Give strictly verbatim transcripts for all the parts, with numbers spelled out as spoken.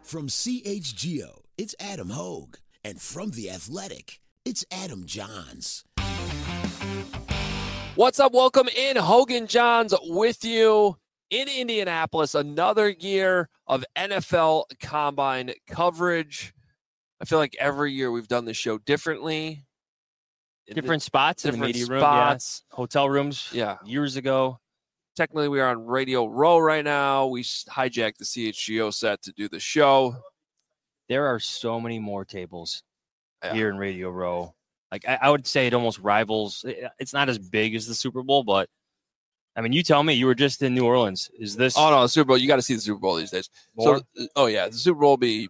From C H G O, it's Adam Hogue. And from The Athletic, it's Adam Johns. What's up? Welcome in. Hogan Johns with you in Indianapolis. Another year of N F L Combine coverage. I feel like every year we've done this show differently. Different spots different in the media room, spots. yeah. Hotel rooms, yeah. Years ago. Technically, we are on Radio Row right now. We hijacked the C H G O set to do the show. There are so many more tables yeah. here in Radio Row. Like I, I would say, it almost rivals. It's not as big as the Super Bowl, but I mean, you tell me. You were just in New Orleans. Is this? Oh no, the Super Bowl. You got to see the Super Bowl these days. More? So, oh yeah, the Super Bowl will be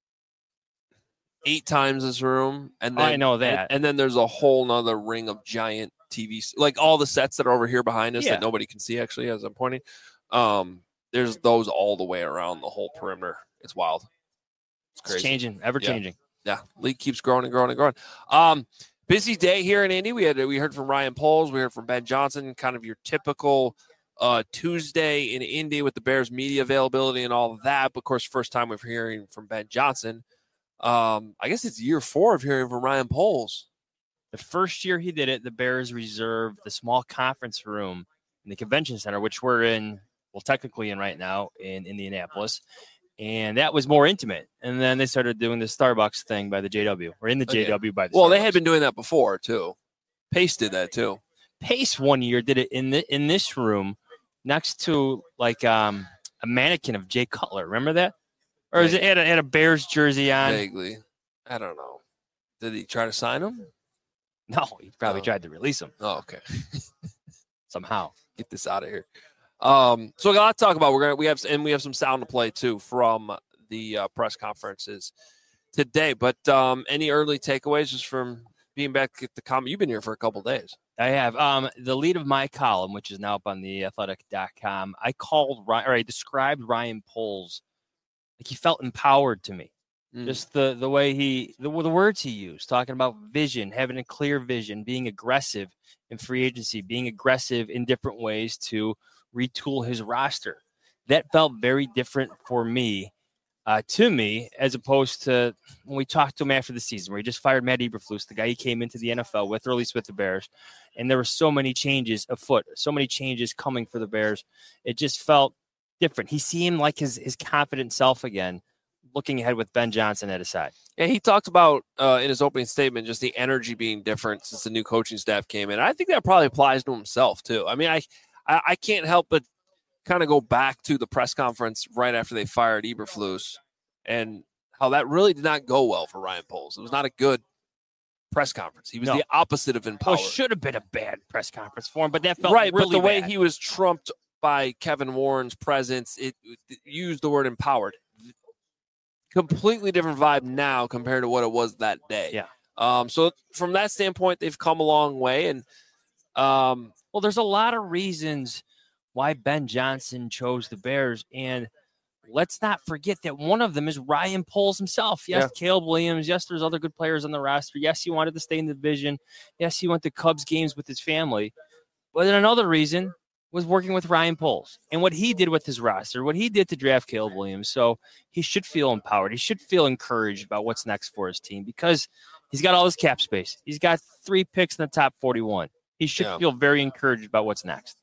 eight times this room, and then I know that. And, and then there's a whole nother ring of giant T Vs, like all the sets that are over here behind us yeah. that nobody can see. Actually, as I'm pointing, um, there's those all the way around the whole perimeter. It's wild. It's crazy. It's changing, ever yeah. changing. Yeah, league keeps growing and growing and growing. Um, busy day here in Indy. We had we heard from Ryan Poles. We heard from Ben Johnson. Kind of your typical uh, Tuesday in Indy with the Bears media availability and all of that. But of course, first time we're hearing from Ben Johnson. Um, I guess it's year four of hearing from Ryan Poles. The first year he did it, the Bears reserved the small conference room in the convention center, which we're in, well, technically in right now in Indianapolis. And that was more intimate. And then they started doing the Starbucks thing by the J W. Or in the okay. J W by the Well, Starbucks. they had been doing that before, too. Pace did that, too. Pace one year did it in the in this room next to, like, um, a mannequin of Jay Cutler. Remember that? Or is it had a, had a Bears jersey on? Vaguely. I don't know. Did he try to sign him? No, he probably oh. tried to release him. Oh, okay. Somehow. Get this out of here. Um, so a lot to talk about. We're gonna we have and we have some sound to play too from the uh, press conferences today. But um, any early takeaways just from being back at the com? You've been here for a couple of days. I have. Um, the lead of my column, which is now up on the athletic dot com, I called Ryan, or I described Ryan Poles like he felt empowered to me. Mm. Just the the way he the, the words he used, talking about vision, having a clear vision, being aggressive in free agency, being aggressive in different ways to retool his roster. That felt very different for me, uh, to me, as opposed to when we talked to him after the season, where he just fired Matt Eberflus, the guy he came into the N F L with, or at least with the Bears, and there were so many changes afoot, so many changes coming for the Bears. It just felt different. He seemed like his his confident self again, looking ahead with Ben Johnson at his side. Yeah, he talked about uh, in his opening statement just the energy being different since the new coaching staff came in. I think that probably applies to himself too. I mean, I. I, I can't help but kind of go back to the press conference right after they fired Eberflus and how that really did not go well for Ryan Poles. It was not a good press conference. He was no. the opposite of empowered. Well, it should have been a bad press conference for him, but that felt right. really But the way bad. he was trumped by Kevin Warren's presence, it, it used the word empowered. Completely different vibe now compared to what it was that day. Yeah. Um. So from that standpoint, they've come a long way, and um. Well, there's a lot of reasons why Ben Johnson chose the Bears, and let's not forget that one of them is Ryan Poles himself. Yes, yeah. Caleb Williams. Yes, there's other good players on the roster. Yes, he wanted to stay in the division. Yes, he went to Cubs games with his family. But then another reason was working with Ryan Poles and what he did with his roster, what he did to draft Caleb Williams. So he should feel empowered. He should feel encouraged about what's next for his team because he's got all this cap space. He's got three picks in the top forty-one. He should yeah. feel very encouraged about what's next.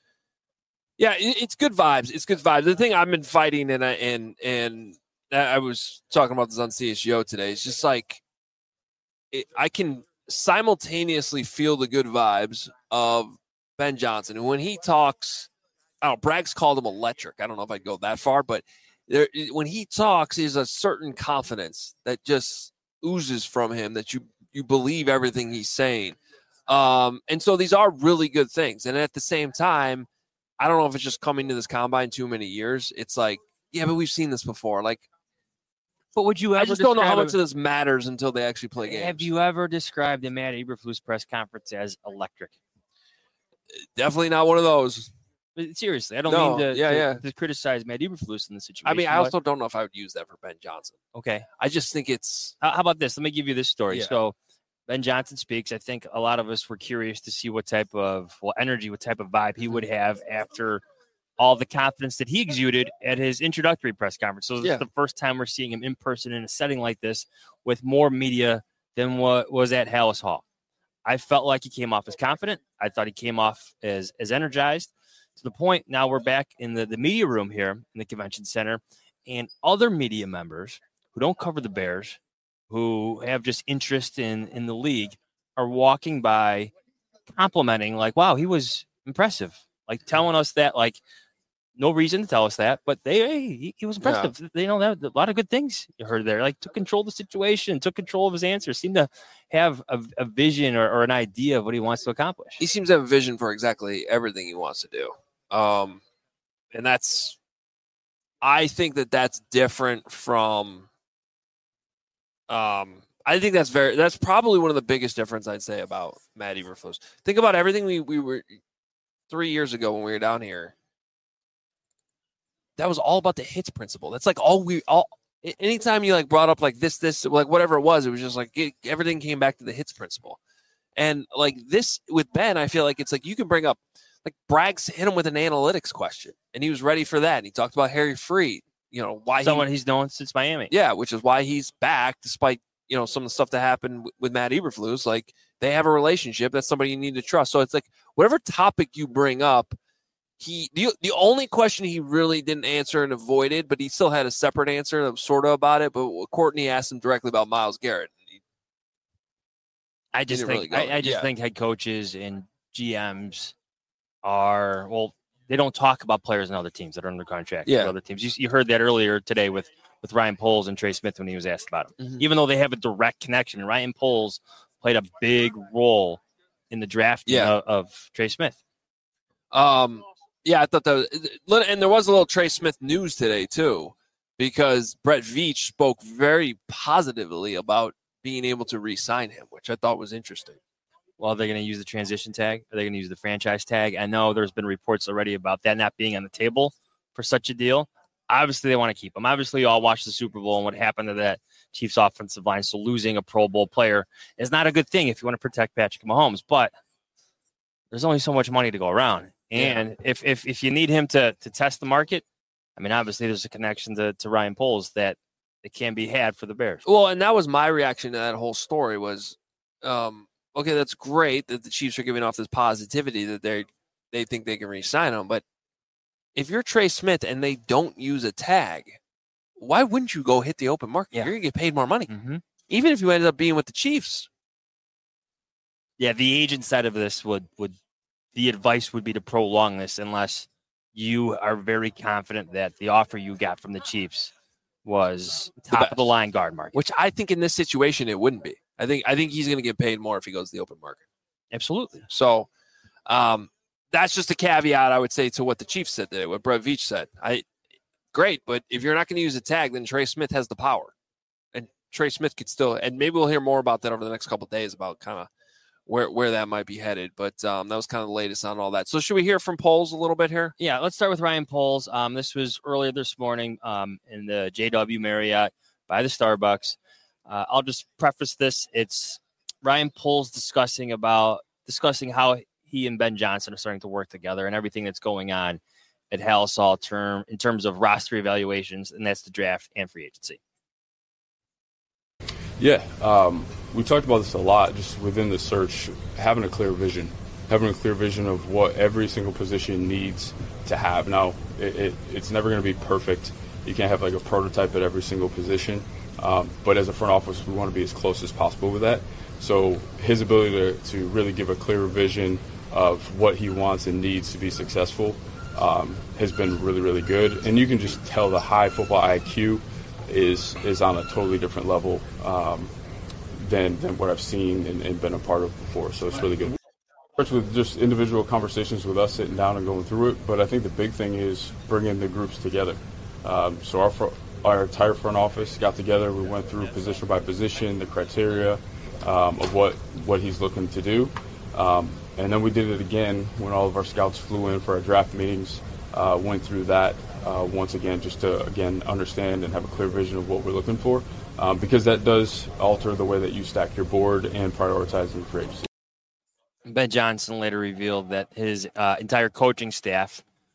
Yeah, it's good vibes. It's good vibes. The thing I've been fighting, and I, and and I was talking about this on C H G O today, it's just like it, I can simultaneously feel the good vibes of Ben Johnson. And when he talks, I don't know, Bragg's called him electric. I don't know if I'd go that far, but there, when he talks, is a certain confidence that just oozes from him that you you believe everything he's saying. Um, and so these are really good things. And at the same time, I don't know if it's just coming to this combine too many years. It's like, yeah, but we've seen this before. Like, but would you ever I just don't know how much a, of this matters until they actually play games. Have you ever described the Matt Eberflus press conference as electric? Definitely not one of those. But seriously, I don't no, mean to, yeah, to, yeah. to criticize Matt Eberflus in the situation. I mean, I also don't know if I would use that for Ben Johnson. Okay. I just think it's... How, how about this? Let me give you this story. Yeah. So Ben Johnson speaks. I think a lot of us were curious to see what type of well energy, what type of vibe he would have after all the confidence that he exuded at his introductory press conference. So this Yeah. is the first time we're seeing him in person in a setting like this with more media than what was at Hallis Hall. I felt like he came off as confident. I thought he came off as, as energized to the point. Now we're back in the, the media room here in the convention center, and other media members who don't cover the Bears, who have just interest in, in the league, are walking by complimenting, like, wow, he was impressive. Like telling us that, like, no reason to tell us that, but they, hey, he, he was impressive. Yeah. They know that a lot of good things you heard there. Like took control of the situation, took control of his answers, seemed to have a, a vision or, or an idea of what he wants to accomplish. He seems to have a vision for exactly everything he wants to do. Um, and that's, I think that that's different from, um, I think that's very, that's probably one of the biggest difference I'd say about Matt Eberflus. Think about everything we, we were three years ago when we were down here. That was all about the hits principle. That's like all we all. Anytime you like brought up like this, this, like whatever it was, it was just like it, everything came back to the hits principle. And like this with Ben, I feel like it's like you can bring up like Braggs hit him with an analytics question, and he was ready for that. And he talked about Harry Freed, you know, why someone he, he's known since Miami. Yeah, which is why he's back despite you know some of the stuff that happened w- with Matt Eberflus. Like they have a relationship. That's somebody you need to trust. So it's like whatever topic you bring up. He the, the only question he really didn't answer and avoided, but he still had a separate answer that was sort of about it. But Courtney asked him directly about Myles Garrett. He, I just think really I, I just yeah. think head coaches and G Ms are well, they don't talk about players and other teams that are under contract. Yeah, for other teams. You, you heard that earlier today with, with Ryan Poles and Trey Smith when he was asked about him. Mm-hmm. Even though they have a direct connection, Ryan Poles played a big role in the draft yeah. of, of Trey Smith. Um. Yeah, I thought that was, and there was a little Trey Smith news today too, because Brett Veach spoke very positively about being able to re-sign him, which I thought was interesting. Well, they're going to use the transition tag. Are they going to use the franchise tag? I know there's been reports already about that not being on the table for such a deal. Obviously, they want to keep him. Obviously, you all watched the Super Bowl and what happened to that Chiefs offensive line. So losing a Pro Bowl player is not a good thing if you want to protect Patrick Mahomes. But there's only so much money to go around. And yeah. if, if if you need him to to test the market, I mean, obviously there's a connection to, to Ryan Poles that it can be had for the Bears. Well, and that was my reaction to that whole story was, um, okay, that's great that the Chiefs are giving off this positivity that they they think they can re-sign him. But if you're Trey Smith and they don't use a tag, why wouldn't you go hit the open market? Yeah. You're going to get paid more money. Mm-hmm. Even if you ended up being with the Chiefs. Yeah, the agent side of this would would – the advice would be to prolong this unless you are very confident that the offer you got from the Chiefs was top the of the line guard market. Which I think in this situation it wouldn't be. I think I think he's going to get paid more if he goes to the open market. Absolutely. So um, that's just a caveat I would say to what the Chiefs said today, what Brett Veach said. I great, but if you're not going to use a tag, then Trey Smith has the power, and Trey Smith could still. And maybe we'll hear more about that over the next couple of days about kind of. Where where that might be headed. But um, that was kind of the latest on all that. So should we hear from Poles a little bit here? Yeah, let's start with Ryan Poles. Um, this was earlier this morning um, in the J W Marriott by the Starbucks. Uh, I'll just preface this. It's Ryan Poles discussing about discussing how he and Ben Johnson are starting to work together and everything that's going on at Hallis Hall term in terms of roster evaluations, and that's the draft and free agency. Yeah, um, we talked about this a lot just within the search, having a clear vision, having a clear vision of what every single position needs to have. Now, it, it, it's never going to be perfect. You can't have like a prototype at every single position, um, but as a front office, we want to be as close as possible with that. So his ability to, to really give a clear vision of what he wants and needs to be successful um, has been really, really good. And you can just tell the high football I Q is is on a totally different level um, than than what I've seen and, and been a part of before. So it's really good. It starts with just individual conversations with us sitting down and going through it. But I think the big thing is bringing the groups together. Um, so our our entire front office got together. We went through position by position, the criteria um, of what what he's looking to do, um, and then we did it again when all of our scouts flew in for our draft meetings. Uh, went through that. Uh, once again, just to, again, understand and have a clear vision of what we're looking for, um, because that does alter the way that you stack your board and prioritize in free agency. Ben Johnson later revealed that his uh, entire coaching staff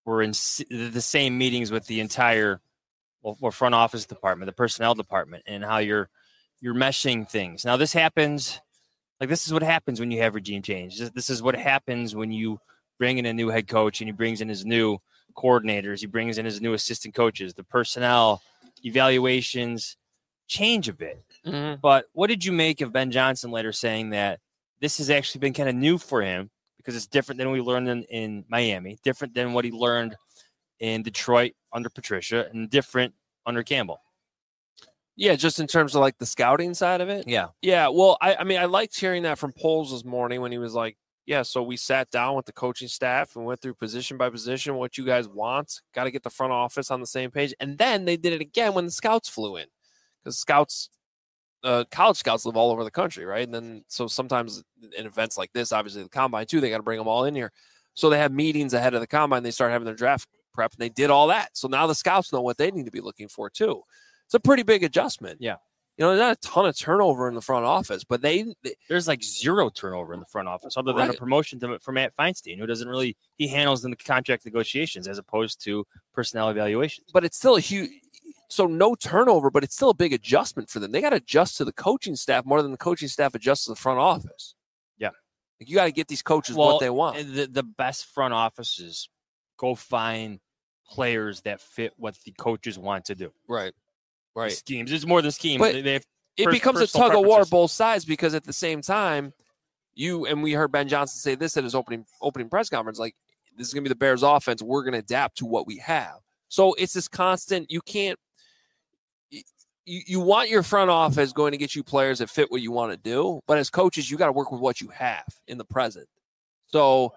were in the same meetings with the entire well, front office department, the personnel department, and how you're you're meshing things. Now, this happens, like this is what happens when you have regime change. This, this is what happens when you bring in a new head coach and he brings in his new coordinators, he brings in his new assistant coaches, the personnel evaluations change a bit. Mm-hmm. But what did you make of Ben Johnson later saying that this has actually been kind of new for him because it's different than we learned in, in Miami, different than what he learned in Detroit under Patricia, and different under Campbell? Yeah, just in terms of like the scouting side of it. Yeah. Yeah. Well, I, I mean, I liked hearing that from Poles this morning when he was like, yeah, so we sat down with the coaching staff and went through position by position what you guys want. Got to get the front office on the same page. And then they did it again when the scouts flew in, because scouts, uh, college scouts live all over the country, right? And then so sometimes in events like this, obviously the combine too, they got to bring them all in here. So they have meetings ahead of the combine. They start having their draft prep, and they did all that. So now the scouts know what they need to be looking for too. It's a pretty big adjustment. Yeah. You know, there's not a ton of turnover in the front office, but they, they there's like zero turnover in the front office other than right. a promotion to, for Matt Feinstein, who doesn't really, he handles the contract negotiations as opposed to personnel evaluations. But it's still a huge, so no turnover, but it's still a big adjustment for them. They got to adjust to the coaching staff more than the coaching staff adjusts to the front office. Yeah. Like you got to get these coaches well, what they want. The, the best front offices go find players that fit what the coaches want to do. Right. Right. Schemes. It's more than schemes. But they, they have it pers- becomes a personal tug of war preferences. both sides, because at the same time, you and we heard Ben Johnson say this at his opening opening press conference, like, this is going to be the Bears offense. We're going to adapt to what we have. So it's this constant, you can't, you, you want your front office going to get you players that fit what you want to do. But as coaches, you got to work with what you have in the present. So,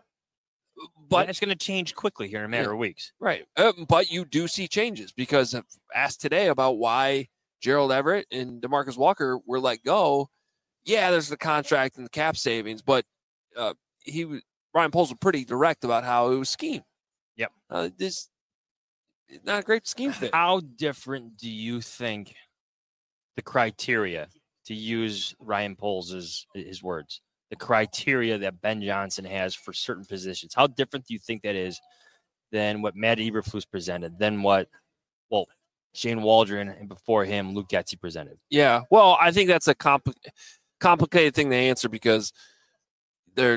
but yeah, it's going to change quickly here in a matter yeah, of weeks. Right. Uh, but you do see changes, because I've asked today about why Gerald Everett and DeMarcus Walker were let go. Yeah, there's the contract and the cap savings, but uh, he was, Ryan Poles was pretty direct about how it was scheme. Yep. Uh, this not a great scheme fit. How different do you think the criteria, to use Ryan Poles' his words, the criteria that Ben Johnson has for certain positions, how different do you think that is than what Matt Eberflus presented, than what, well, Shane Waldron and before him, Luke Getsy presented? Yeah. Well, I think that's a compl- complicated thing to answer, because they're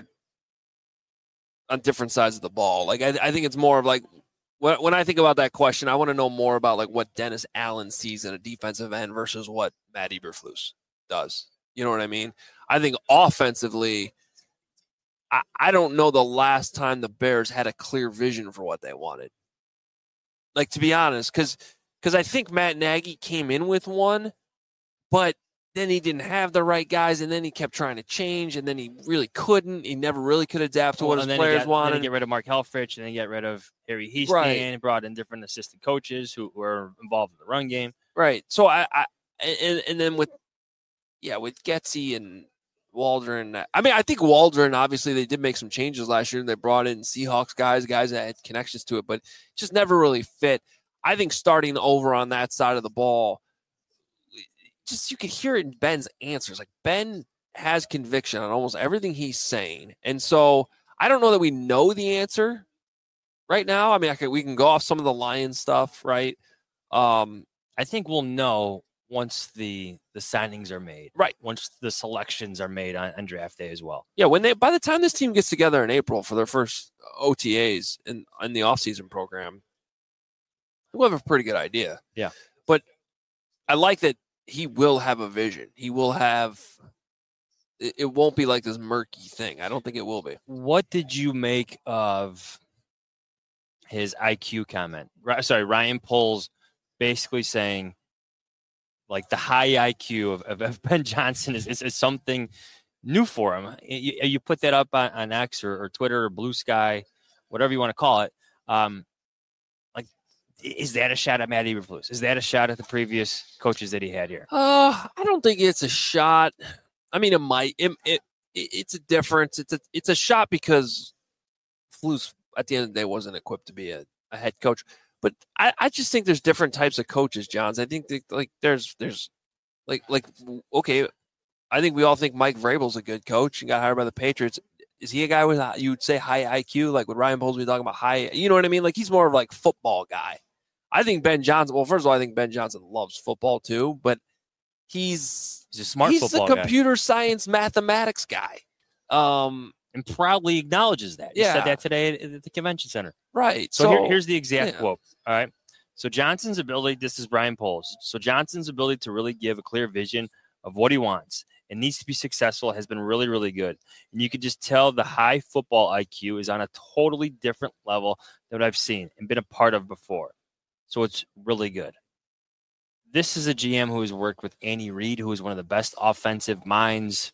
on different sides of the ball. Like, I, I think it's more of like, when, when I think about that question, I want to know more about like what Dennis Allen sees in a defensive end versus what Matt Eberflus does. You know what I mean? I think offensively, I, I don't know the last time the Bears had a clear vision for what they wanted. Like, to be honest, because because I think Matt Nagy came in with one, but then he didn't have the right guys, and then he kept trying to change, and then he really couldn't. He never really could adapt to Well, what his and then players he got, wanted. Then he get rid of Mark Helfrich, and then get rid of Harry Heaston, Right. and brought in different assistant coaches who were involved in the run game. Right. So I, I and, and then with, yeah, with Getsy and Waldron. I mean, I think Waldron, obviously they did make some changes last year, and they brought in Seahawks guys, guys that had connections to it, but just never really fit. I think starting over on that side of the ball, just you could hear it in Ben's answers. Like, Ben has conviction on almost everything he's saying. And so I don't know that we know the answer right now. I mean, I could, we can go off some of the Lions stuff, right? Um, I think we'll know once the the signings are made. Right. Once the selections are made on, on draft day as well. Yeah, when they by the time this team gets together in April for their first O T As in, in the offseason program, we'll have a pretty good idea. Yeah. But I like that he will have a vision. He will have it, it won't be like this murky thing. I don't think it will be. What did you make of his I Q comment? Right, sorry, Ryan Poles basically saying, like, the high I Q of, of, of Ben Johnson is, is, is something new for him. You, you put that up on, on X or, or Twitter or Blue Sky, whatever you want to call it. Um, like, is that a shot at Matt Eberflus? Is that a shot at the previous coaches that he had here? Uh, I don't think it's a shot. I mean, it might. It, it it's a difference. It's a it's a shot because Flus at the end of the day wasn't equipped to be a, a head coach. But I, I just think there's different types of coaches, Johns. I think that, like there's there's like like okay, I think we all think Mike Vrabel's a good coach and got hired by the Patriots. is he a guy with you would say high I Q? Like would Ryan Poles be talking about high? You know what I mean? Like he's more of like football guy. I think Ben Johnson. Well, first of all, I think Ben Johnson loves football too, but he's he's a smart he's football a guy. computer science mathematics guy. Um, and proudly acknowledges that. He yeah. said that today at the convention center. Right. So, so here, here's the exact yeah. quote. All right. So Johnson's ability, this is Ryan Poles. So Johnson's ability to really give a clear vision of what he wants and needs to be successful has been really, really good. And you could just tell the high football I Q is on a totally different level than what I've seen and been a part of before. So it's really good. This is a G M who has worked with Andy Reid, who is one of the best offensive minds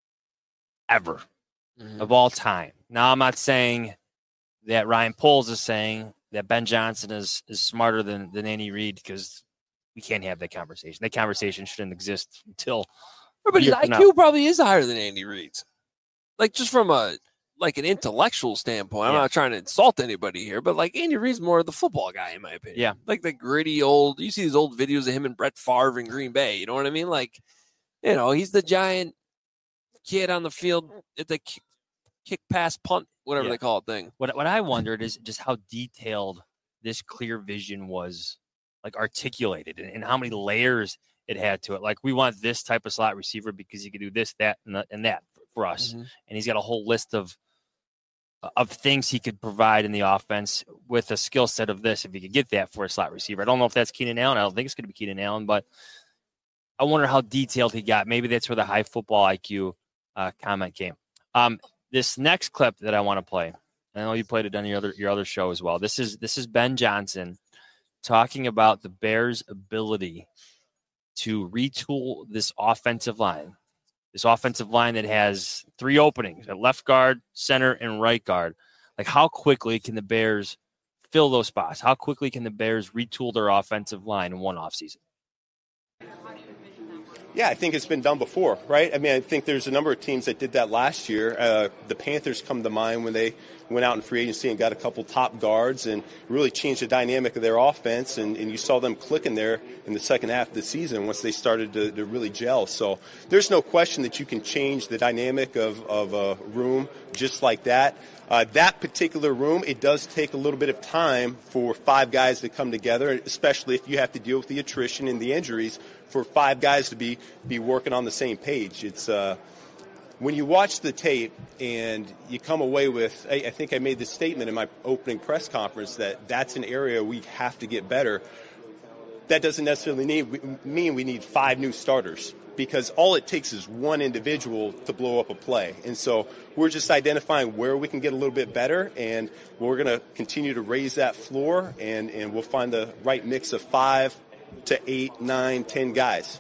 ever mm-hmm. of all time. Now, I'm not saying that Ryan Poles is saying that Ben Johnson is is smarter than, than Andy Reid, because we can't have that conversation. That conversation shouldn't exist until. But his I Q probably is higher than Andy Reid's. Like just from a like an intellectual standpoint. I'm yeah. not trying to insult anybody here, but like Andy Reid's more of the football guy in my opinion. Yeah, like the gritty old. You see these old videos of him and Brett Favre in Green Bay. You know what I mean? Like, you know, he's the giant kid on the field at the kick, kick pass punt, whatever yeah. they call it thing. What what I wondered is just how detailed this clear vision was, like articulated, and, and how many layers it had to it. Like, we want this type of slot receiver because he could do this, that, and, the, and that for us. Mm-hmm. And he's got a whole list of of things he could provide in the offense with a skill set of this, if he could get that for a slot receiver. I don't know if that's Keenan Allen. I don't think it's going to be Keenan Allen, but I wonder how detailed he got. Maybe that's where the high football I Q uh, comment came. Um, this next clip that I want to play, I know you played it on your other your other show as well. This is this is Ben Johnson talking about the Bears' ability to retool this offensive line. This offensive line that has three openings at left guard, center, and right guard. Like, how quickly can the Bears fill those spots? How quickly can the Bears retool their offensive line in one offseason? Yeah, I think it's been done before, right? I mean, I think there's a number of teams that did that last year. Uh, the Panthers come to mind when they went out in free agency and got a couple top guards and really changed the dynamic of their offense. And, and you saw them clicking there in the second half of the season once they started to, to really gel. So there's no question that you can change the dynamic of, of a room just like that. Uh, that particular room, it does take a little bit of time for five guys to come together, especially if you have to deal with the attrition and the injuries, for five guys to be, be working on the same page. It's uh, when you watch the tape and you come away with, I, I think I made this statement in my opening press conference that that's an area we have to get better. That doesn't necessarily need, mean we need five new starters, because all it takes is one individual to blow up a play. And so we're just identifying where we can get a little bit better, and we're going to continue to raise that floor, and, and we'll find the right mix of five to eight, nine, ten guys.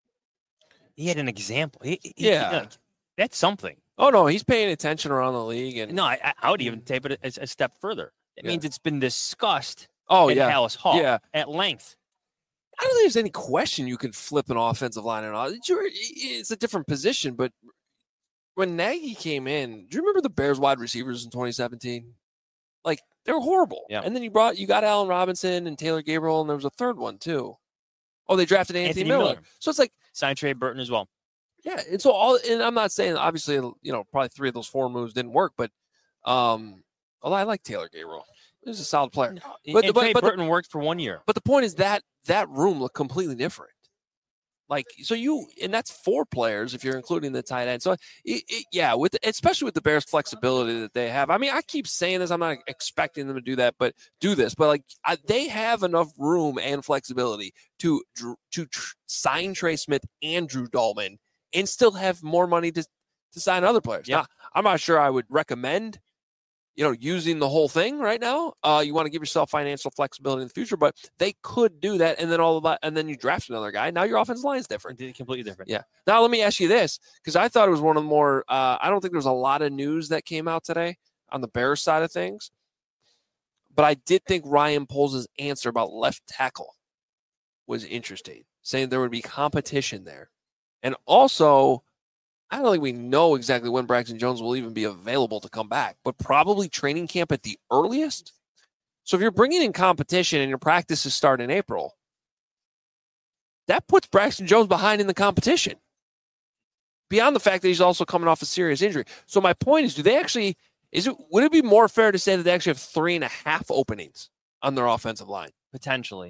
He had an example. He, he, yeah. He, like, that's something. Oh, no, he's paying attention around the league. And No, I, I would even take it a, a step further. It yeah. means it's been discussed oh, at yeah. Hallis Hall yeah. at length. I don't think there's any question you can flip an offensive line and all. It's a different position, but when Nagy came in, do you remember the Bears wide receivers in twenty seventeen? Like, they were horrible. Yeah. And then you brought you got Allen Robinson and Taylor Gabriel, and there was a third one too. Oh, they drafted Anthony, Anthony Miller. Miller. So it's like signed Trey Burton as well. Yeah, and so all and I'm not saying obviously, you know, probably three of those four moves didn't work, but um although I like Taylor Gabriel. He's a solid player. No, but, and but, Trey but Burton the, worked for one year. But the point is that that room looked completely different. Like, so you, and that's four players if you're including the tight end. So, it, it, yeah, with especially with the Bears' flexibility that they have. I mean, I keep saying this. I'm not expecting them to do that, but do this. But like, I, they have enough room and flexibility to to tr- sign Trey Smith and Drew Dalman, and still have more money to to sign other players. Yeah, now, I'm not sure I would recommend, you know, using the whole thing right now. Uh, you want to give yourself financial flexibility in the future, but they could do that. And then all of that, and then you draft another guy. Now your offensive line is different. Completely different. Yeah. Now let me ask you this, because I thought it was one of the more, uh, I don't think there was a lot of news that came out today on the Bears side of things, but I did think Ryan Poles' answer about left tackle was interesting, saying there would be competition there. And also, I don't think we know exactly when Braxton Jones will even be available to come back, but probably training camp at the earliest. So if you're bringing in competition and your practices start in April, that puts Braxton Jones behind in the competition. beyond the fact that he's also coming off a serious injury. So my point is, do they actually, is it, would it be more fair to say that they actually have three and a half openings on their offensive line? Potentially.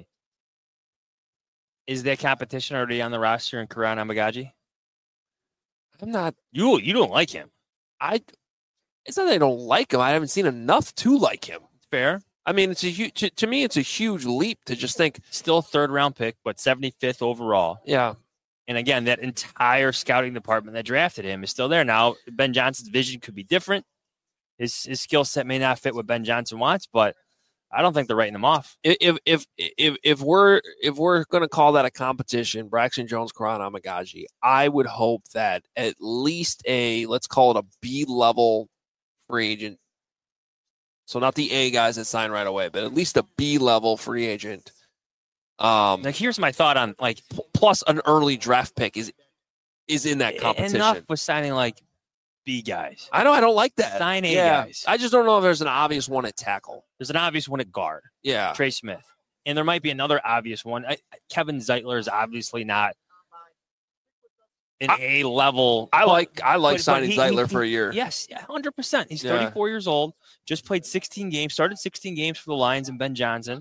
Is there competition already on the roster in Karan Amagaji? I'm not. You you don't like him. I. It's not that I don't like him. I haven't seen enough to like him. Fair. I mean, it's a huge. To, to me, it's a huge leap to just think. Still third round pick, but seventy-fifth overall. Yeah. And again, that entire scouting department that drafted him is still there. Now, Ben Johnson's vision could be different. His his skill set may not fit what Ben Johnson wants, but I don't think they're writing him off. If if if if we're if we're going to call that a competition, Braxton Jones, Karan Amagaji, I would hope that at least a, let's call it a B level free agent. So not the A guys that sign right away, but at least a B level free agent. Um, like here's my thought on like p- plus an early draft pick is is in that competition. Enough with signing like B guys. I know I don't like that. Sign A yeah. guys. I just don't know if there's an obvious one at tackle. There's an obvious one at guard. Yeah, Trey Smith, and there might be another obvious one. I, Kevin Zeitler is obviously not an A level. I but, like I like but, signing but he, Zeitler he, for a year. Yes, one hundred percent. He's Yeah. thirty-four years old. Just played sixteen games. Started sixteen games for the Lions and Ben Johnson.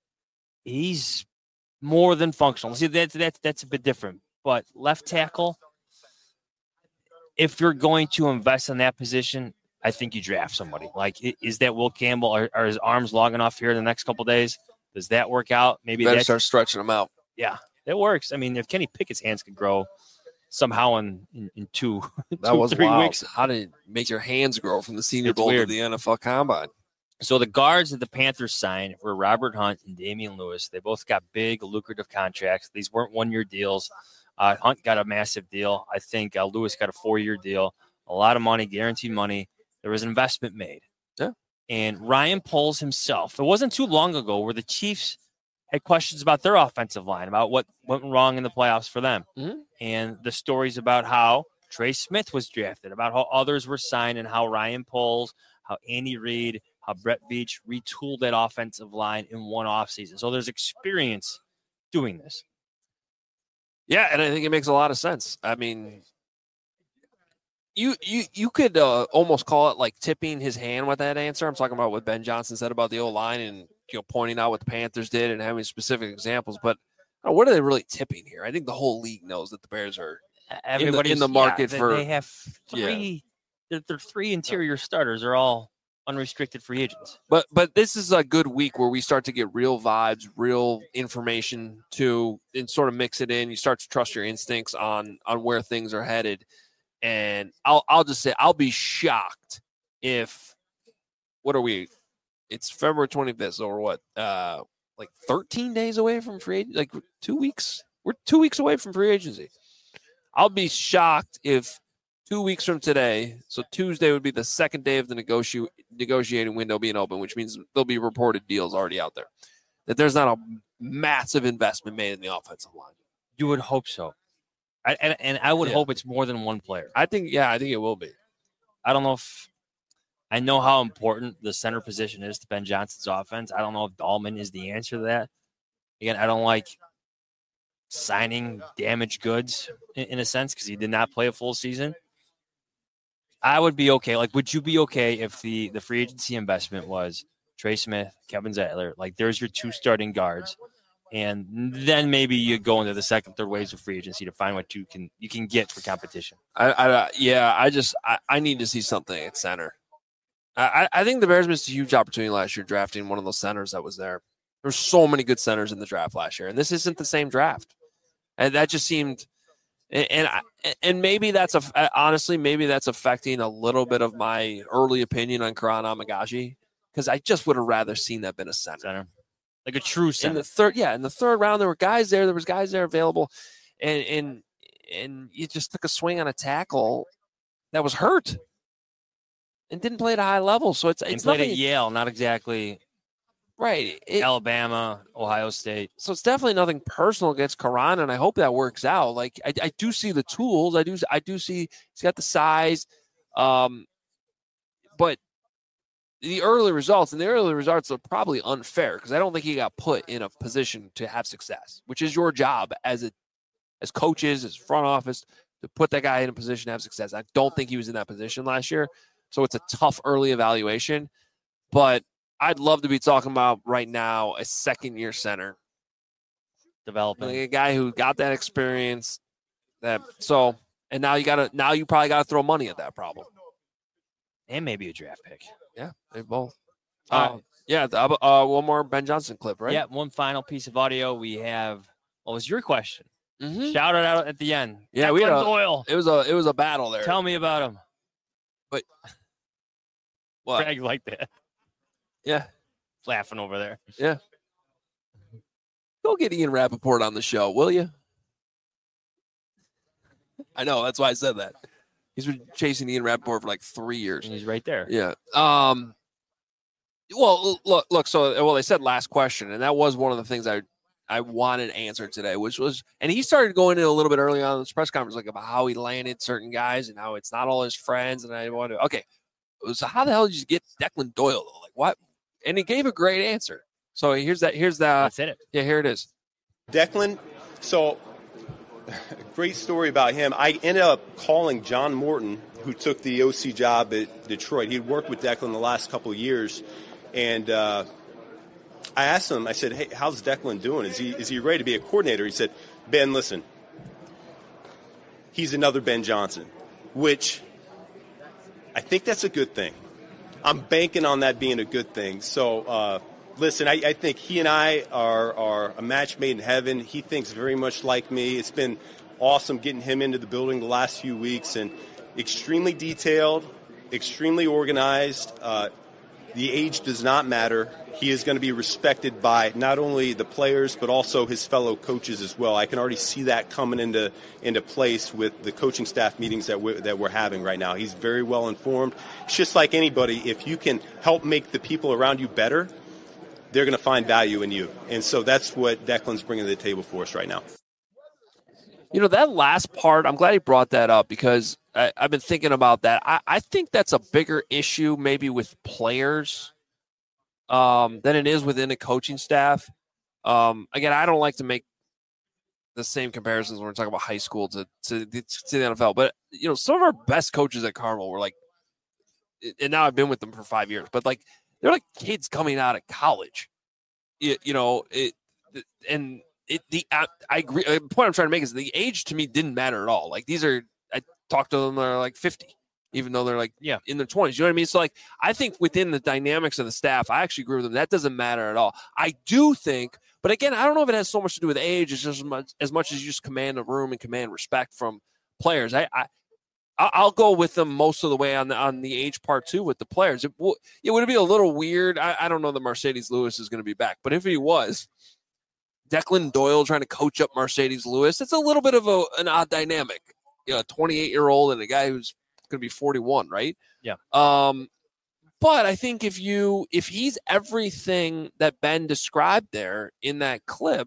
He's more than functional. See, that's that's that's a bit different. But left tackle, if you're going to invest in that position, I think you draft somebody. Like, is that Will Campbell? Are, are his arms long enough here the next couple of days? Does that work out? Maybe better that's, start stretching them out. Yeah, that works. I mean, if Kenny Pickett's hands could grow somehow in, in, in two, That two was three wild. weeks. How did it make your hands grow from the Senior It's Bowl weird. to the N F L Combine? So the guards that the Panthers signed were Robert Hunt and Damian Lewis. They both got big, lucrative contracts. These weren't one-year deals. Uh, Hunt got a massive deal. I think uh, Lewis got a four-year deal. A lot of money, guaranteed money. There was an investment made. Yeah. And Ryan Poles himself, it wasn't too long ago where the Chiefs had questions about their offensive line, about what went wrong in the playoffs for them. Mm-hmm. And the stories about how Trey Smith was drafted, about how others were signed, and how Ryan Poles, how Andy Reid, how Brett Veach retooled that offensive line in one offseason. So there's experience doing this. Yeah, and I think it makes a lot of sense. I mean, you you you could uh, almost call it like tipping his hand with that answer. I'm talking about what Ben Johnson said about the O-line and, you know, pointing out what the Panthers did and having specific examples. But uh, what are they really tipping here? I think the whole league knows that the Bears are Everybody's in the market yeah, for- They have three. Their, their three interior starters are all unrestricted free agents. But but this is a good week where we start to get real vibes, real information to and sort of mix it in. You start to trust your instincts on on where things are headed. And I'll I'll just say I'll be shocked if what are we? It's February twenty-fifth or what? Uh, like thirteen days away from free agency, like two weeks. We're two weeks away from free agency. I'll be shocked if two weeks from today, so Tuesday would be the second day of the negoti- negotiating window being open, which means there'll be reported deals already out there. That there's not a massive investment made in the offensive line. You would hope so. I, and, and I would Yeah. hope it's more than one player. I think, yeah, I think it will be. I don't know if I know how important the center position is to Ben Johnson's offense. I don't know if Dahlman is the answer to that. Again, I don't like signing damaged goods in, in a sense because he did not play a full season. I would be okay. Like, would you be okay if the, the free agency investment was Trey Smith, Kevin Zeitler? Like, there's your two starting guards, and then maybe you go into the second, third waves of free agency to find what you can you can get for competition. I, I yeah, I just I, I need to see something at center. I, I think the Bears missed a huge opportunity last year drafting one of those centers that was there. There's so many good centers in the draft last year, and this isn't the same draft. And that just seemed, and and, and maybe that's a honestly maybe that's affecting a little bit of my early opinion on Karan Amagaji because I just would have rather seen that been a center. Center. Like a true center. In the third, yeah, in the third round, there were guys there. There was guys there available, and and and you just took a swing on a tackle that was hurt and didn't play at a high level. So it's and it's played nothing, at Yale, not exactly right. It, Alabama, Ohio State. so it's definitely nothing personal against Karan, and I hope that works out. Like I, I do see the tools. I do I do see he's got the size, um, but the early results and the early results are probably unfair because I don't think he got put in a position to have success, which is your job as a as coaches, as front office, to put that guy in a position to have success. I don't think he was in that position last year. So it's a tough early evaluation. But I'd love to be talking about right now a second-year center. Developing. Like a guy who got that experience. That so and now you gotta now you probably gotta throw money at that problem. And maybe a draft pick. Yeah, they both. All Uh, right. yeah, the, uh, one more Ben Johnson clip, right? Yeah, one final piece of audio. We have what was your question? Mm-hmm. Shout it out at the end. Yeah, we had Declan a, Doyle. it was a it was a battle there. Tell me about him. But what? Craig like that. Yeah. Laughing over there. Yeah. Go get Ian Rappaport on the show, will you? I know, that's why I said that. He's been chasing Ian Rappaport for like three years. And he's right there. Yeah. Um. Well, look, look. So, well, they said last question, and that was one of the things I I wanted answered today, which was, and he started going in a little bit early on in this press conference, like about how he landed certain guys and how it's not all his friends. And I wanted, okay, so how the hell did you get Declan Doyle? Though? Like what? And he gave a great answer. So here's that. Here's the. That's it. Yeah, here it is. Declan, so great story about him. I ended up calling John Morton, who took the O C job at Detroit. He'd worked with Declan the last couple of years, and uh, I asked him, I said, hey, how's Declan doing? Is he is he ready to be a coordinator? He said, Ben, listen, he's another Ben Johnson, which I think that's a good thing. I'm banking on that being a good thing. So, uh, listen, I, I think he and I are, are a match made in heaven. He thinks very much like me. It's been awesome getting him into the building the last few weeks, and extremely detailed, extremely organized. Uh, the age does not matter. He is going to be respected by not only the players but also his fellow coaches as well. I can already see that coming into into place with the coaching staff meetings that we're, that we're having right now. He's very well informed. It's just like anybody. If you can help make the people around you better, they're going to find value in you. And so that's what Declan's bringing to the table for us right now. You know, that last part, I'm glad he brought that up because I, I've been thinking about that. I, I think that's a bigger issue maybe with players um, than it is within a coaching staff. Um, again, I don't like to make the same comparisons when we're talking about high school to, to, to the N F L. But, you know, some of our best coaches at Carmel were like, and now I've been with them for five years, but like, they're like kids coming out of college. You, you know, it, and it, the, I, I agree. The point I'm trying to make is the age to me didn't matter at all. Like these are, I talked to them, they're like fifty, even though they're like, yeah, in their twenties. You know what I mean? So like, I think within the dynamics of the staff, I actually agree with them. That doesn't matter at all. I do think, but again, I don't know if it has so much to do with age. It's just as much as, much as you just command a room and command respect from players. I, I, I'll go with them most of the way on the on the age part too with the players. It, w- it would be a little weird. I, I don't know that Mercedes Lewis is going to be back, but if he was, Declan Doyle trying to coach up Mercedes Lewis, it's a little bit of a, an odd dynamic. You know, a twenty-eight-year-old and a guy who's going to be forty-one, right? Yeah. Um, but I think if you if he's everything that Ben described there in that clip,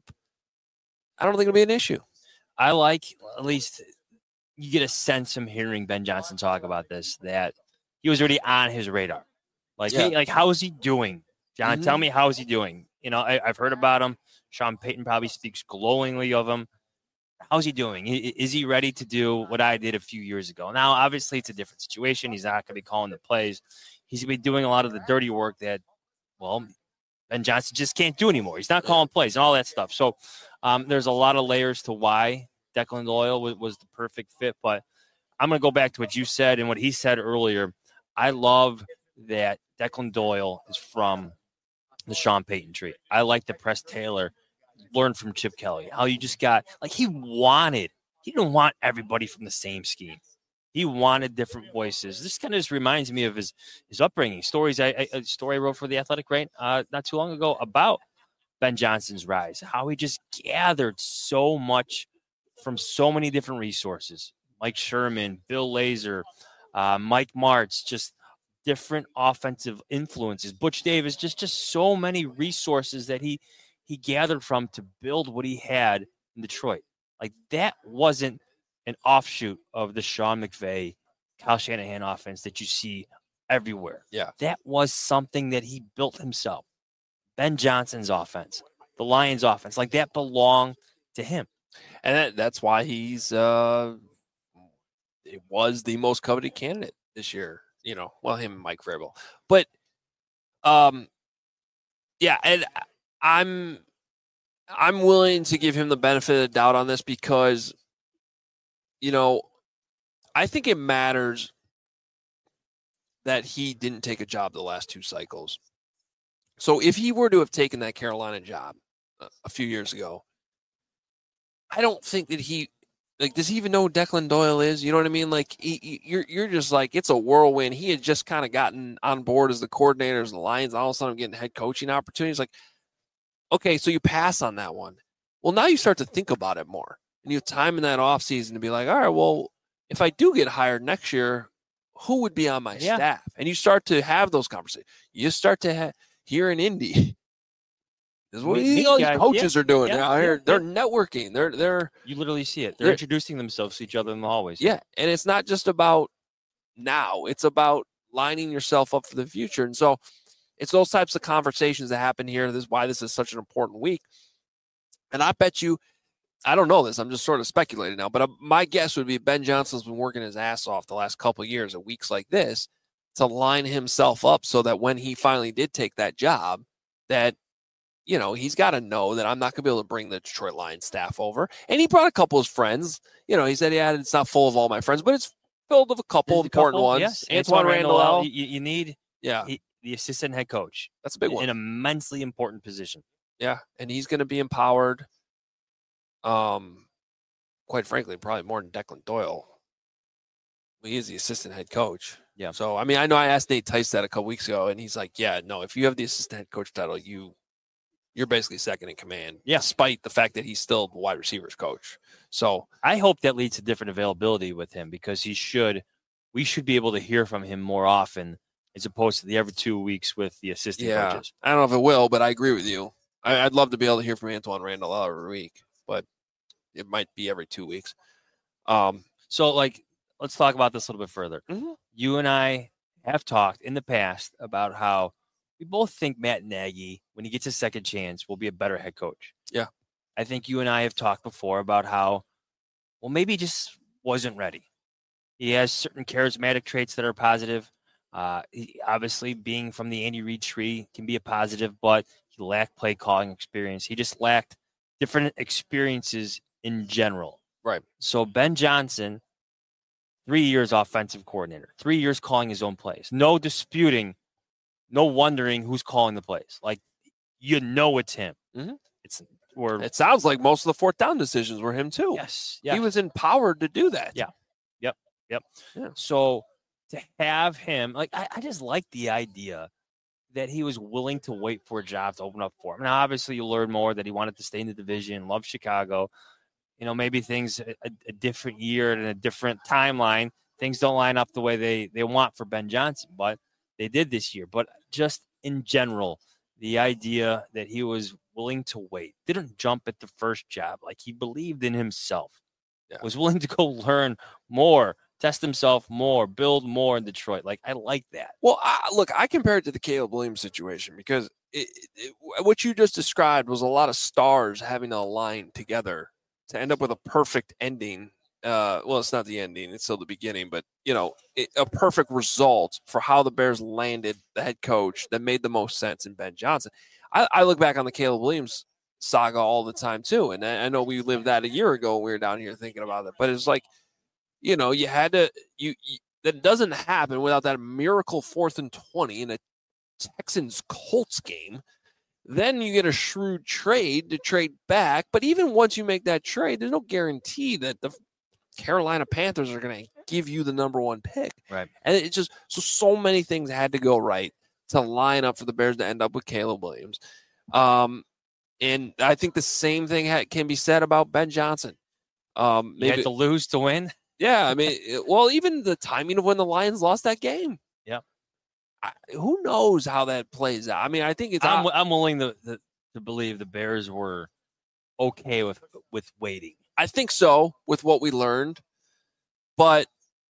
I don't think it'll be an issue. I like at least. You get a sense from hearing Ben Johnson talk about this that he was already on his radar. Like, yeah. hey, like how is he doing? John, Mm-hmm. tell me how is he doing? You know, I, I've heard about him. Sean Payton probably speaks glowingly of him. How's he doing? Is he ready to do what I did a few years ago? Now, obviously, it's a different situation. He's not going to be calling the plays. He's going to be doing a lot of the dirty work that, well, Ben Johnson just can't do anymore. He's not calling plays and all that stuff. So um, there's a lot of layers to why Declan Doyle was, was the perfect fit, but I'm going to go back to what you said and what he said earlier. I love that Declan Doyle is from the Sean Payton tree. I like that Press Taylor learned from Chip Kelly, how you just got, like he wanted, he didn't want everybody from the same scheme. He wanted different voices. This kind of just reminds me of his, his upbringing. Stories, I, I, a story I wrote for The Athletic, right, uh, not too long ago about Ben Johnson's rise, how he just gathered so much from so many different resources. Mike Sherman, Bill Lazor, uh, Mike Martz, just different offensive influences. Butch Davis, just just so many resources that he he gathered from to build what he had in Detroit. Like that wasn't an offshoot of the Sean McVay, Kyle Shanahan offense that you see everywhere. Yeah. That was something that he built himself. Ben Johnson's offense, the Lions offense, like that belonged to him. And that, that's why he's uh, it was the most coveted candidate this year. You know, well, him and Mike Vrabel. But, um, yeah, and I'm I'm willing to give him the benefit of the doubt on this because, you know, I think it matters that he didn't take a job the last two cycles. So if he were to have taken that Carolina job a, a few years ago, I don't think that he, like, does he even know who Declan Doyle is? You know what I mean? Like, he, he, you're you're just like, it's a whirlwind. He had just kind of gotten on board as the coordinator of the Lions. All of a sudden, I'm getting head coaching opportunities. Like, okay, so you pass on that one. Well, now you start to think about it more. And you have time in that offseason to be like, all right, well, if I do get hired next year, who would be on my yeah. staff? And you start to have those conversations. You start to have, here in Indy, this is what Me, all these guys, coaches yeah, are doing yeah, now. yeah, They're, yeah. they're networking. They're they're You literally see it. They're, They're- introducing themselves to each other in the hallways. yeah, and it's not just about now. It's about lining yourself up for the future. And so it's those types of conversations that happen here. This is why this is such an important week. And I bet you, I don't know this. I'm just sort of speculating now, but uh, my guess would be Ben Johnson's been working his ass off the last couple of years at weeks like this to line himself up so that when he finally did take that job, that, you know, he's got to know that I'm not going to be able to bring the Detroit Lions staff over. And he brought a couple of his friends. You know, he said, yeah, it's not full of all my friends, but it's filled with a couple There's a important couple, ones. Yes. Antoine Randall. You, you need Yeah, he, the assistant head coach. that's a big one. An immensely important position. Yeah, and he's going to be empowered. Um, quite frankly, probably more than Declan Doyle. He is the assistant head coach. Yeah. So I mean, I know I asked Nate Tice that a couple weeks ago, and he's like, "Yeah, no, if you have the assistant head coach title, you you're basically second in command." Yeah. Despite the fact that he's still the wide receivers coach. So I hope that leads to different availability with him because he should. We should be able to hear from him more often as opposed to the every two weeks with the assistant yeah, coaches. I don't know if it will, but I agree with you. I, I'd love to be able to hear from Antoine Randall every week, but it might be every two weeks. Um, So, like, let's talk about this a little bit further. Mhm. You and I have talked in the past about how we both think Matt Nagy, when he gets a second chance, will be a better head coach. Yeah. I think you and I have talked before about how, well, maybe he just wasn't ready. He has certain charismatic traits that are positive. Uh, he, obviously, being from the Andy Reid tree can be a positive, but he lacked play calling experience. He just lacked different experiences in general. Right. So Ben Johnson, three years offensive coordinator, three years calling his own plays. No disputing, no wondering who's calling the plays. Like, you know it's him. Mhm. It's or it sounds like most of the fourth down decisions were him too. yes, yes. He was empowered to do that. Yeah. Yep. Yep. Yeah. So to have him, like, I, I just like the idea that he was willing to wait for a job to open up for him. Now, obviously, you learn more that he wanted to stay in the division, love Chicago. You know, maybe things a, a different year and a different timeline, things don't line up the way they, they want for Ben Johnson, but they did this year. But just in general, the idea that he was willing to wait, didn't jump at the first job, like he believed in himself, Yeah. was willing to go learn more, test himself more, build more in Detroit. Like, I like that. Well, I, look, I compare it to the Caleb Williams situation because it, it, what you just described was a lot of stars having to align together to end up with a perfect ending. Uh, well, it's not the ending; it's still the beginning. But you know, it, a perfect result for how the Bears landed the head coach that made the most sense in Ben Johnson. I, I look back on the Caleb Williams saga all the time too, and I, I know we lived that a year ago when we were down here thinking about it. But it's like, you know, you had to you, you that doesn't happen without that miracle fourth and twenty in a Texans Colts game. Then you get a shrewd trade to trade back. But even once you make that trade, there's no guarantee that the Carolina Panthers are going to give you the number one pick. Right. And it's just so, so many things had to go right to line up for the Bears to end up with Caleb Williams. Um, and I think the same thing ha- can be said about Ben Johnson. Um, You had maybe, to lose to win. yeah, I mean, it- well, even the timing of when the Lions lost that game. Yeah. I, who knows how that plays out? I mean, I think it's I'm, I'm willing to, to to believe the Bears were okay with with waiting. I think so with what we learned, but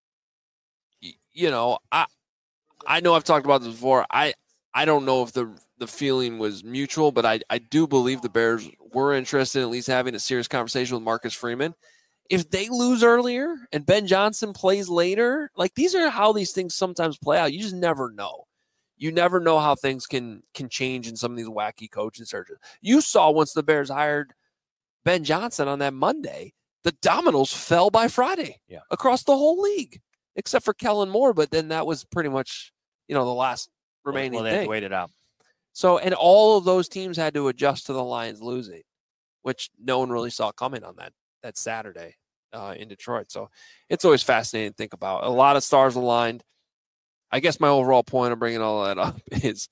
y- you know, I I know I've talked about this before. I I don't know if the the feeling was mutual, but I I do believe the Bears were interested in at least having a serious conversation with Marcus Freeman, if they lose earlier and Ben Johnson plays later, like these are how these things sometimes play out. You just never know. You never know how things can can change in some of these wacky coaching searches. You saw once the Bears hired Ben Johnson on that Monday, the dominoes fell by Friday yeah. across the whole league, except for Kellen Moore. But then that was pretty much, you know, the last remaining well, well, they thing. had to wait it out. So, and all of those teams had to adjust to the Lions losing, which no one really saw coming on that that Saturday uh, in Detroit. So it's always fascinating to think about. A lot of stars aligned. I guess my overall point of bringing all that up is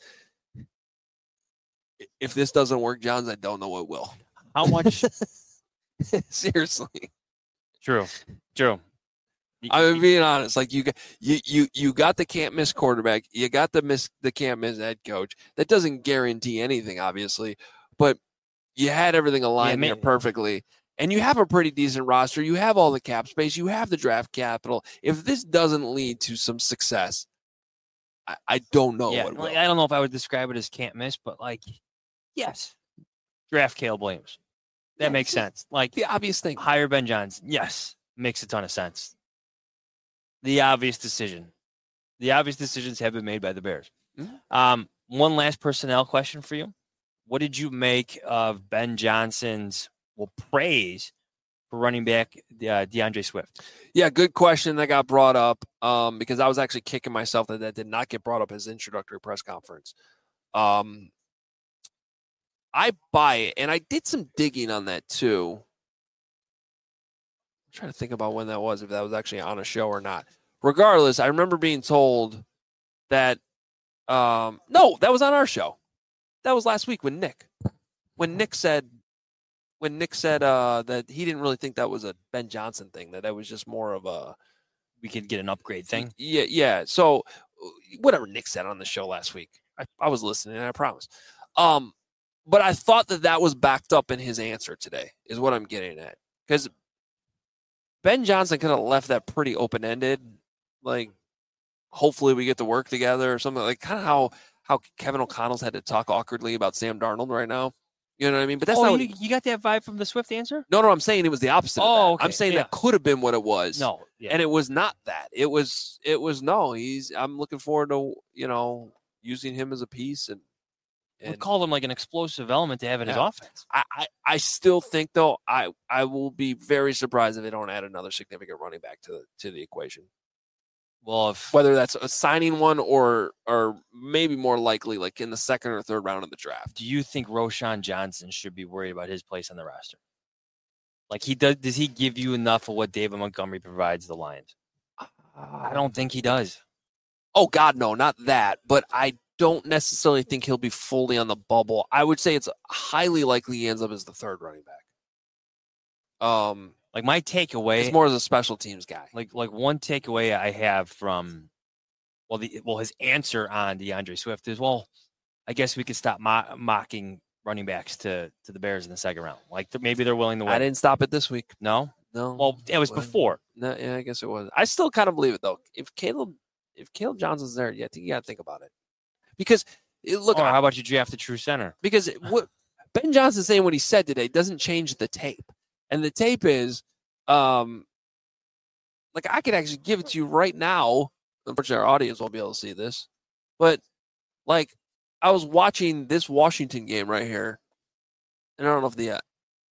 if this doesn't work, Johns, I don't know what will. How much? Seriously. True. True. I'm being honest. Like you, you, you, you got the can't miss quarterback. You got the miss, the can't miss head coach. That doesn't guarantee anything, obviously, but you had everything aligned yeah, there perfectly, and you have a pretty decent roster. You have all the cap space. You have the draft capital. If this doesn't lead to some success, I, I don't know. Yeah, what like, will. I don't know if I would describe it as can't miss, but like, yes, draft Caleb Williams. That yeah, makes sense. Like the obvious thing. Hire Ben Johnson. Yes, makes a ton of sense. The obvious decision. The obvious decisions have been made by the Bears. Mm-hmm. Um, one last personnel question for you. What did you make of Ben Johnson's well praise for running back uh, DeAndre Swift? Yeah, good question that got brought up um, because I was actually kicking myself that that did not get brought up as introductory press conference. Um, I buy it, and I did some digging on that too. I'm trying to think about when that was, if that was actually on a show or not. Regardless, I remember being told that, um, no, that was on our show. That was last week when Nick, when Nick said, when Nick said uh, that he didn't really think that was a Ben Johnson thing, that that was just more of a, we could get an upgrade thing. Yeah, yeah. So whatever Nick said on the show last week, I, I was listening, I promise. Um, but I thought that that was backed up in his answer today, is what I'm getting at, because Ben Johnson could have left that pretty open-ended, like, hopefully we get to work together or something, like kind of how, how Kevin O'Connell's had to talk awkwardly about Sam Darnold right now. You know what I mean? But that's oh, not you, what he, you got that vibe from the Swift answer? No, no, I'm saying it was the opposite Oh, of that. okay. I'm saying Yeah. that could have been what it was. No. Yeah. And it was not that. It was, it was, no, he's, I'm looking forward to, you know, using him as a piece and, we call him like an explosive element to have in yeah. his offense. I, I, I still think though I, I will be very surprised if they don't add another significant running back to the to the equation. Well, if Whether that's a signing one or or maybe more likely like in the second or third round of the draft. do you think Roshan Johnson should be worried about his place on the roster? Like he does, does he give you enough of what David Montgomery provides the Lions? I don't think he does. Oh God, no, not that. But I don't necessarily think he'll be fully on the bubble. I would say it's highly likely he ends up as the third running back. Um, Like my takeaway, it's more as a special teams guy. like like one takeaway I have from, well, the well his answer on DeAndre Swift is, well, I guess we could stop mo- mocking running backs to to the Bears in the second round. Like th- maybe they're willing to win. I didn't stop it this week. No, No. well, it was Well, before. No, yeah, I guess it was. I still kind of believe it though. If Caleb, if Caleb Johnson's there, yeah, I think you got to think about it because it, look, Or I- how about you draft the true center? because it- what Ben Johnson saying what he said today doesn't change the tape, and the tape is, um, like I could actually give it to you right now. Unfortunately, our audience won't be able to see this, but like I was watching this Washington game right here, and I don't know if the, uh,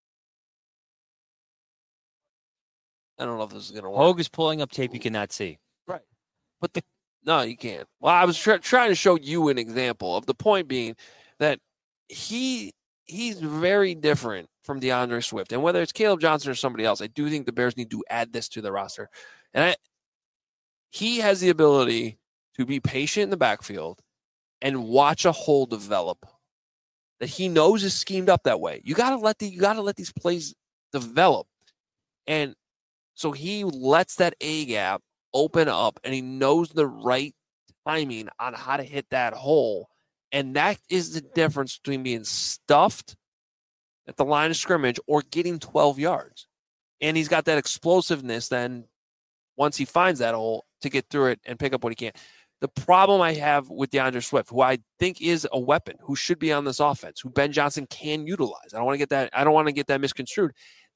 I don't know if this is gonna work. Hogue is pulling up tape you cannot see. Right. But the, no, you can't. Well, I was try, trying to show you an example of the point being that he he's very different from DeAndre Swift. And whether it's Caleb Johnson or somebody else, I do think the Bears need to add this to the roster. And I, he has the ability to be patient in the backfield and watch a hole develop that he knows is schemed up that way. You gotta let the you gotta let these plays develop. And so he lets that A gap open up and he knows the right timing on how to hit that hole. And that is the difference between being stuffed at the line of scrimmage or getting twelve yards. And he's got that explosiveness then once he finds that hole to get through it and pick up what he can. The problem I have with DeAndre Swift, who I think is a weapon, who should be on this offense, who Ben Johnson can utilize. I don't want to get that, I don't want to get that misconstrued.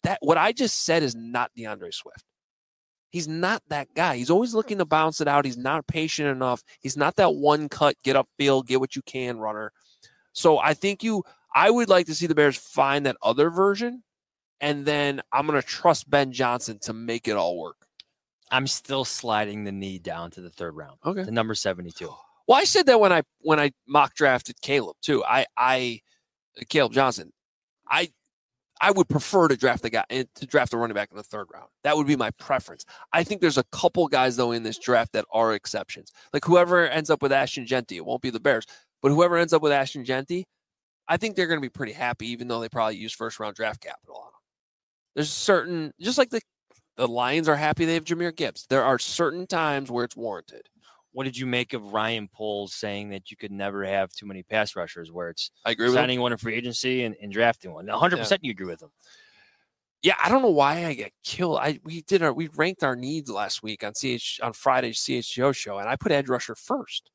that what I just said is not DeAndre Swift. He's not that guy. He's always looking to bounce it out. He's not patient enough. He's not that one cut, get upfield, get what you can runner. So I think you, I would like to see the Bears find that other version, and then I'm going to trust Ben Johnson to make it all work. I'm still sliding the knee down to the third round. Okay. To number seventy-two. Well, I said that when I when I mock drafted Caleb too. I I Caleb Johnson. I I would prefer to draft the guy to draft a running back in the third round. That would be my preference. I think there's a couple guys though in this draft that are exceptions. Like whoever ends up with Ashton Genty, it won't be the Bears, but whoever ends up with Ashton Genty, I think they're going to be pretty happy, even though they probably use first round draft capital on him. There's certain, just like the the Lions are happy they have Jahmyr Gibbs. There are certain times where it's warranted. What did you make of Ryan Poles saying that you could never have too many pass rushers, where it's I agree with signing him. one in free agency and, and drafting one? one hundred percent yeah. You agree with him. Yeah, I don't know why I get killed. I we did our we ranked our needs last week on C H on Friday's C H G O show, and I put edge rusher first.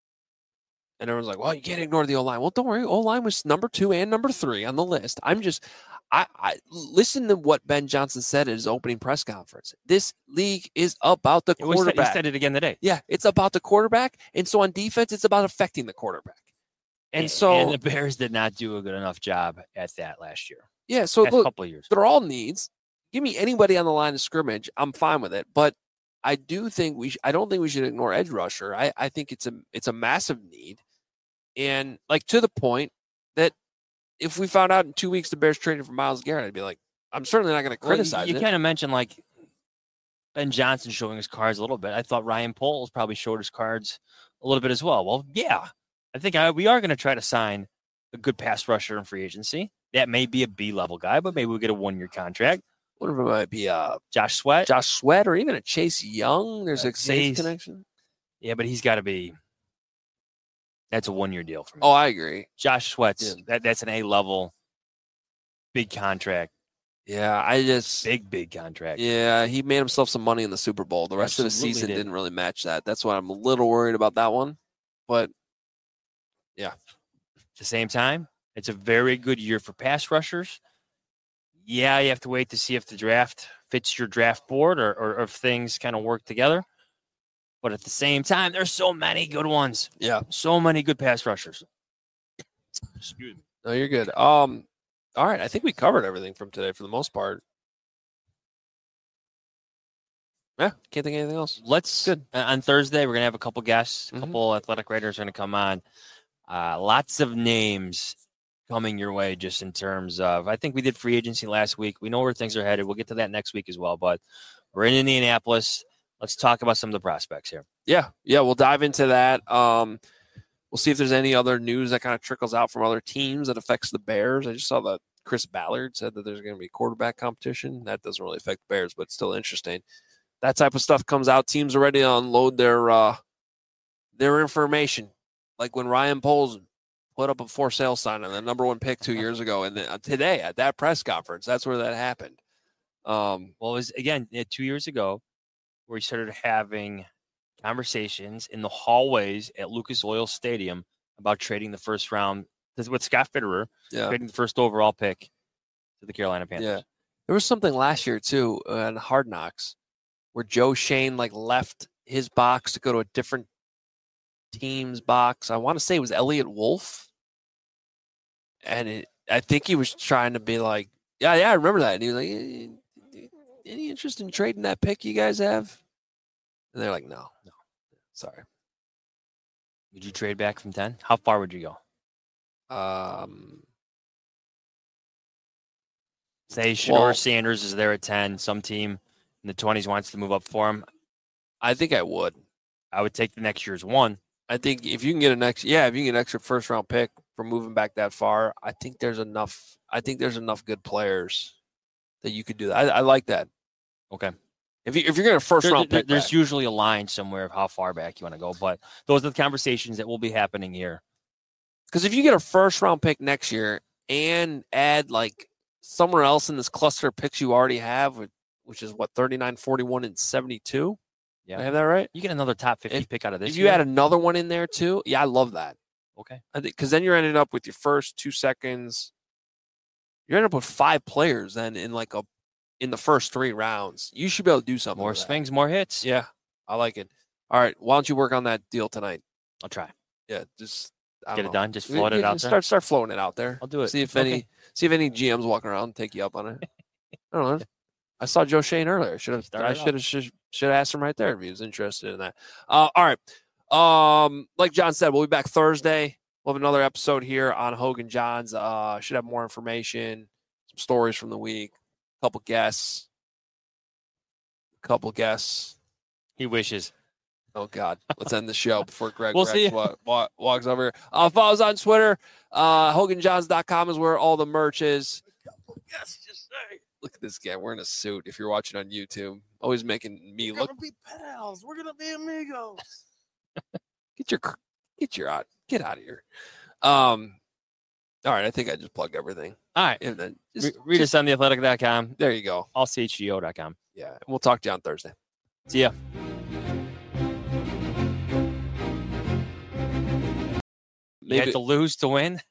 And everyone's like, "Well, you can't ignore the O line." Well, don't worry, O line was number two and number three on the list. I'm just, I, I listen to what Ben Johnson said at his opening press conference. This league is about the quarterback. He said it again today. Yeah, it's about the quarterback, and so on defense, it's about affecting the quarterback. And, and so, and the Bears did not do a good enough job at that last year. Yeah, so last look, couple of years. They're all needs. Give me anybody on the line of scrimmage, I'm fine with it. But I do think we, sh- I don't think we should ignore edge rusher. I, I think it's a, it's a massive need. And like to the point that if we found out in two weeks the Bears traded for Myles Garrett, I'd be like, I'm certainly not going to criticize well, you, you it. You kind of mentioned like Ben Johnson showing his cards a little bit. I thought Ryan Poles probably showed his cards a little bit as well. Well, yeah, I think I, we are going to try to sign a good pass rusher in free agency. That may be a B-level guy, but maybe we'll get a one-year contract. What if it might be uh, Josh Sweat? Josh Sweat or even a Chase Young? There's uh, a Saints connection. Yeah, but he's got to be – that's a one-year deal for me. Oh, I agree. Josh Sweat's yeah. that, that's an A-level big contract. Yeah, I just big, big contract. Yeah, he made himself some money in the Super Bowl. The rest Absolutely of the season did. didn't really match that. That's why I'm a little worried about that one. But yeah, at the same time, it's a very good year for pass rushers. Yeah, you have to wait to see if the draft fits your draft board or, or, or if things kind of work together. But at the same time, there's so many good ones. Yeah, so many good pass rushers. Excuse me. No, you're good. Um. All right, I think we covered everything from today for the most part. Yeah, can't think of anything else. Let's good. Uh, on Thursday, we're gonna have a couple guests. A mm-hmm. couple athletic writers are gonna come on. Uh, lots of names coming your way, just in terms of. I think we did free agency last week. We know where things are headed. We'll get to that next week as well. But we're in Indianapolis. Let's talk about some of the prospects here. Yeah, yeah, we'll dive into that. Um, we'll see if there's any other news that kind of trickles out from other teams that affects the Bears. I just saw that Chris Ballard said that there's going to be quarterback competition. That doesn't really affect the Bears, but it's still interesting. That type of stuff comes out. Teams are ready to unload their uh, their information. Like when Ryan Poles put up a for sale sign on the number one pick two years ago, and then, uh, today at that press conference, that's where that happened. Um, well, it was, again, two years ago, where we started having conversations in the hallways at Lucas Oil Stadium about trading the first round with Scott Fitterer, yeah. trading the first overall pick to the Carolina Panthers. Yeah. There was something last year, too, on Hard Knocks, where Joe Shane like left his box to go to a different team's box. I want to say it was Elliott Wolf. And it, I think he was trying to be like, yeah, yeah, I remember that. And he was like, eh, any interest in trading that pick you guys have? And they're like, no, no, sorry. Would you trade back from ten? How far would you go? Um, Say Shedeur well, Sanders is there at ten. Some team in the twenties wants to move up for him. I think I would. I would take the next year's one. I think if you can get an extra, yeah, if you can get an extra first round pick for moving back that far, I think there's enough. I think there's enough good players that you could do that. I, I like that. Okay. If you if you're going to first there, round there, pick, there's back. usually a line somewhere of how far back you want to go, but those are the conversations that will be happening here. Because if you get a first round pick next year and add like somewhere else in this cluster of picks you already have, which is what thirty-nine, forty-one, and seventy-two. Yeah, I have that right. You get another top fifty if, pick out of this. If you year. add another one in there too, yeah, I love that. Okay, I think because then you're ending up with your first two seconds. You're ending up with five players then in like a in the first three rounds, you should be able to do something. More with that. swings, more hits. Yeah, I like it. All right, why don't you work on that deal tonight? I'll try. Yeah, just I Get don't it know. done. Just Yeah, float it yeah, out just there. Start start floating it out there. I'll do it. See if Okay. any see if any G Ms walking around and take you up on it. I don't know. I saw Joe Shane earlier. Should have Start I it should have should have asked him right there if he was interested in that. Uh, all right. Um, like John said, we'll be back Thursday. We'll have another episode here on Hogan Johns. Uh, should have more information, some stories from the week, a couple guests, a couple guests. He wishes. Oh God, let's end the show before Greg We'll Rex see you. wa- wa- walks over here. Uh, follow us on Twitter. Uh, Hogan Johns dot com is where all the merch is. Yes, just say. Look at this guy wearing a suit. If you're watching on YouTube, always making me We're look. gonna be pals. We're gonna be amigos. Get your get your out get out of here. Um, all right, I think I just plugged everything. All right. And then Re- just, read just- us on the athletic dot com, there you go. all c h g o dot com. Yeah, and we'll talk to you on Thursday. See ya. You Maybe had to lose to win.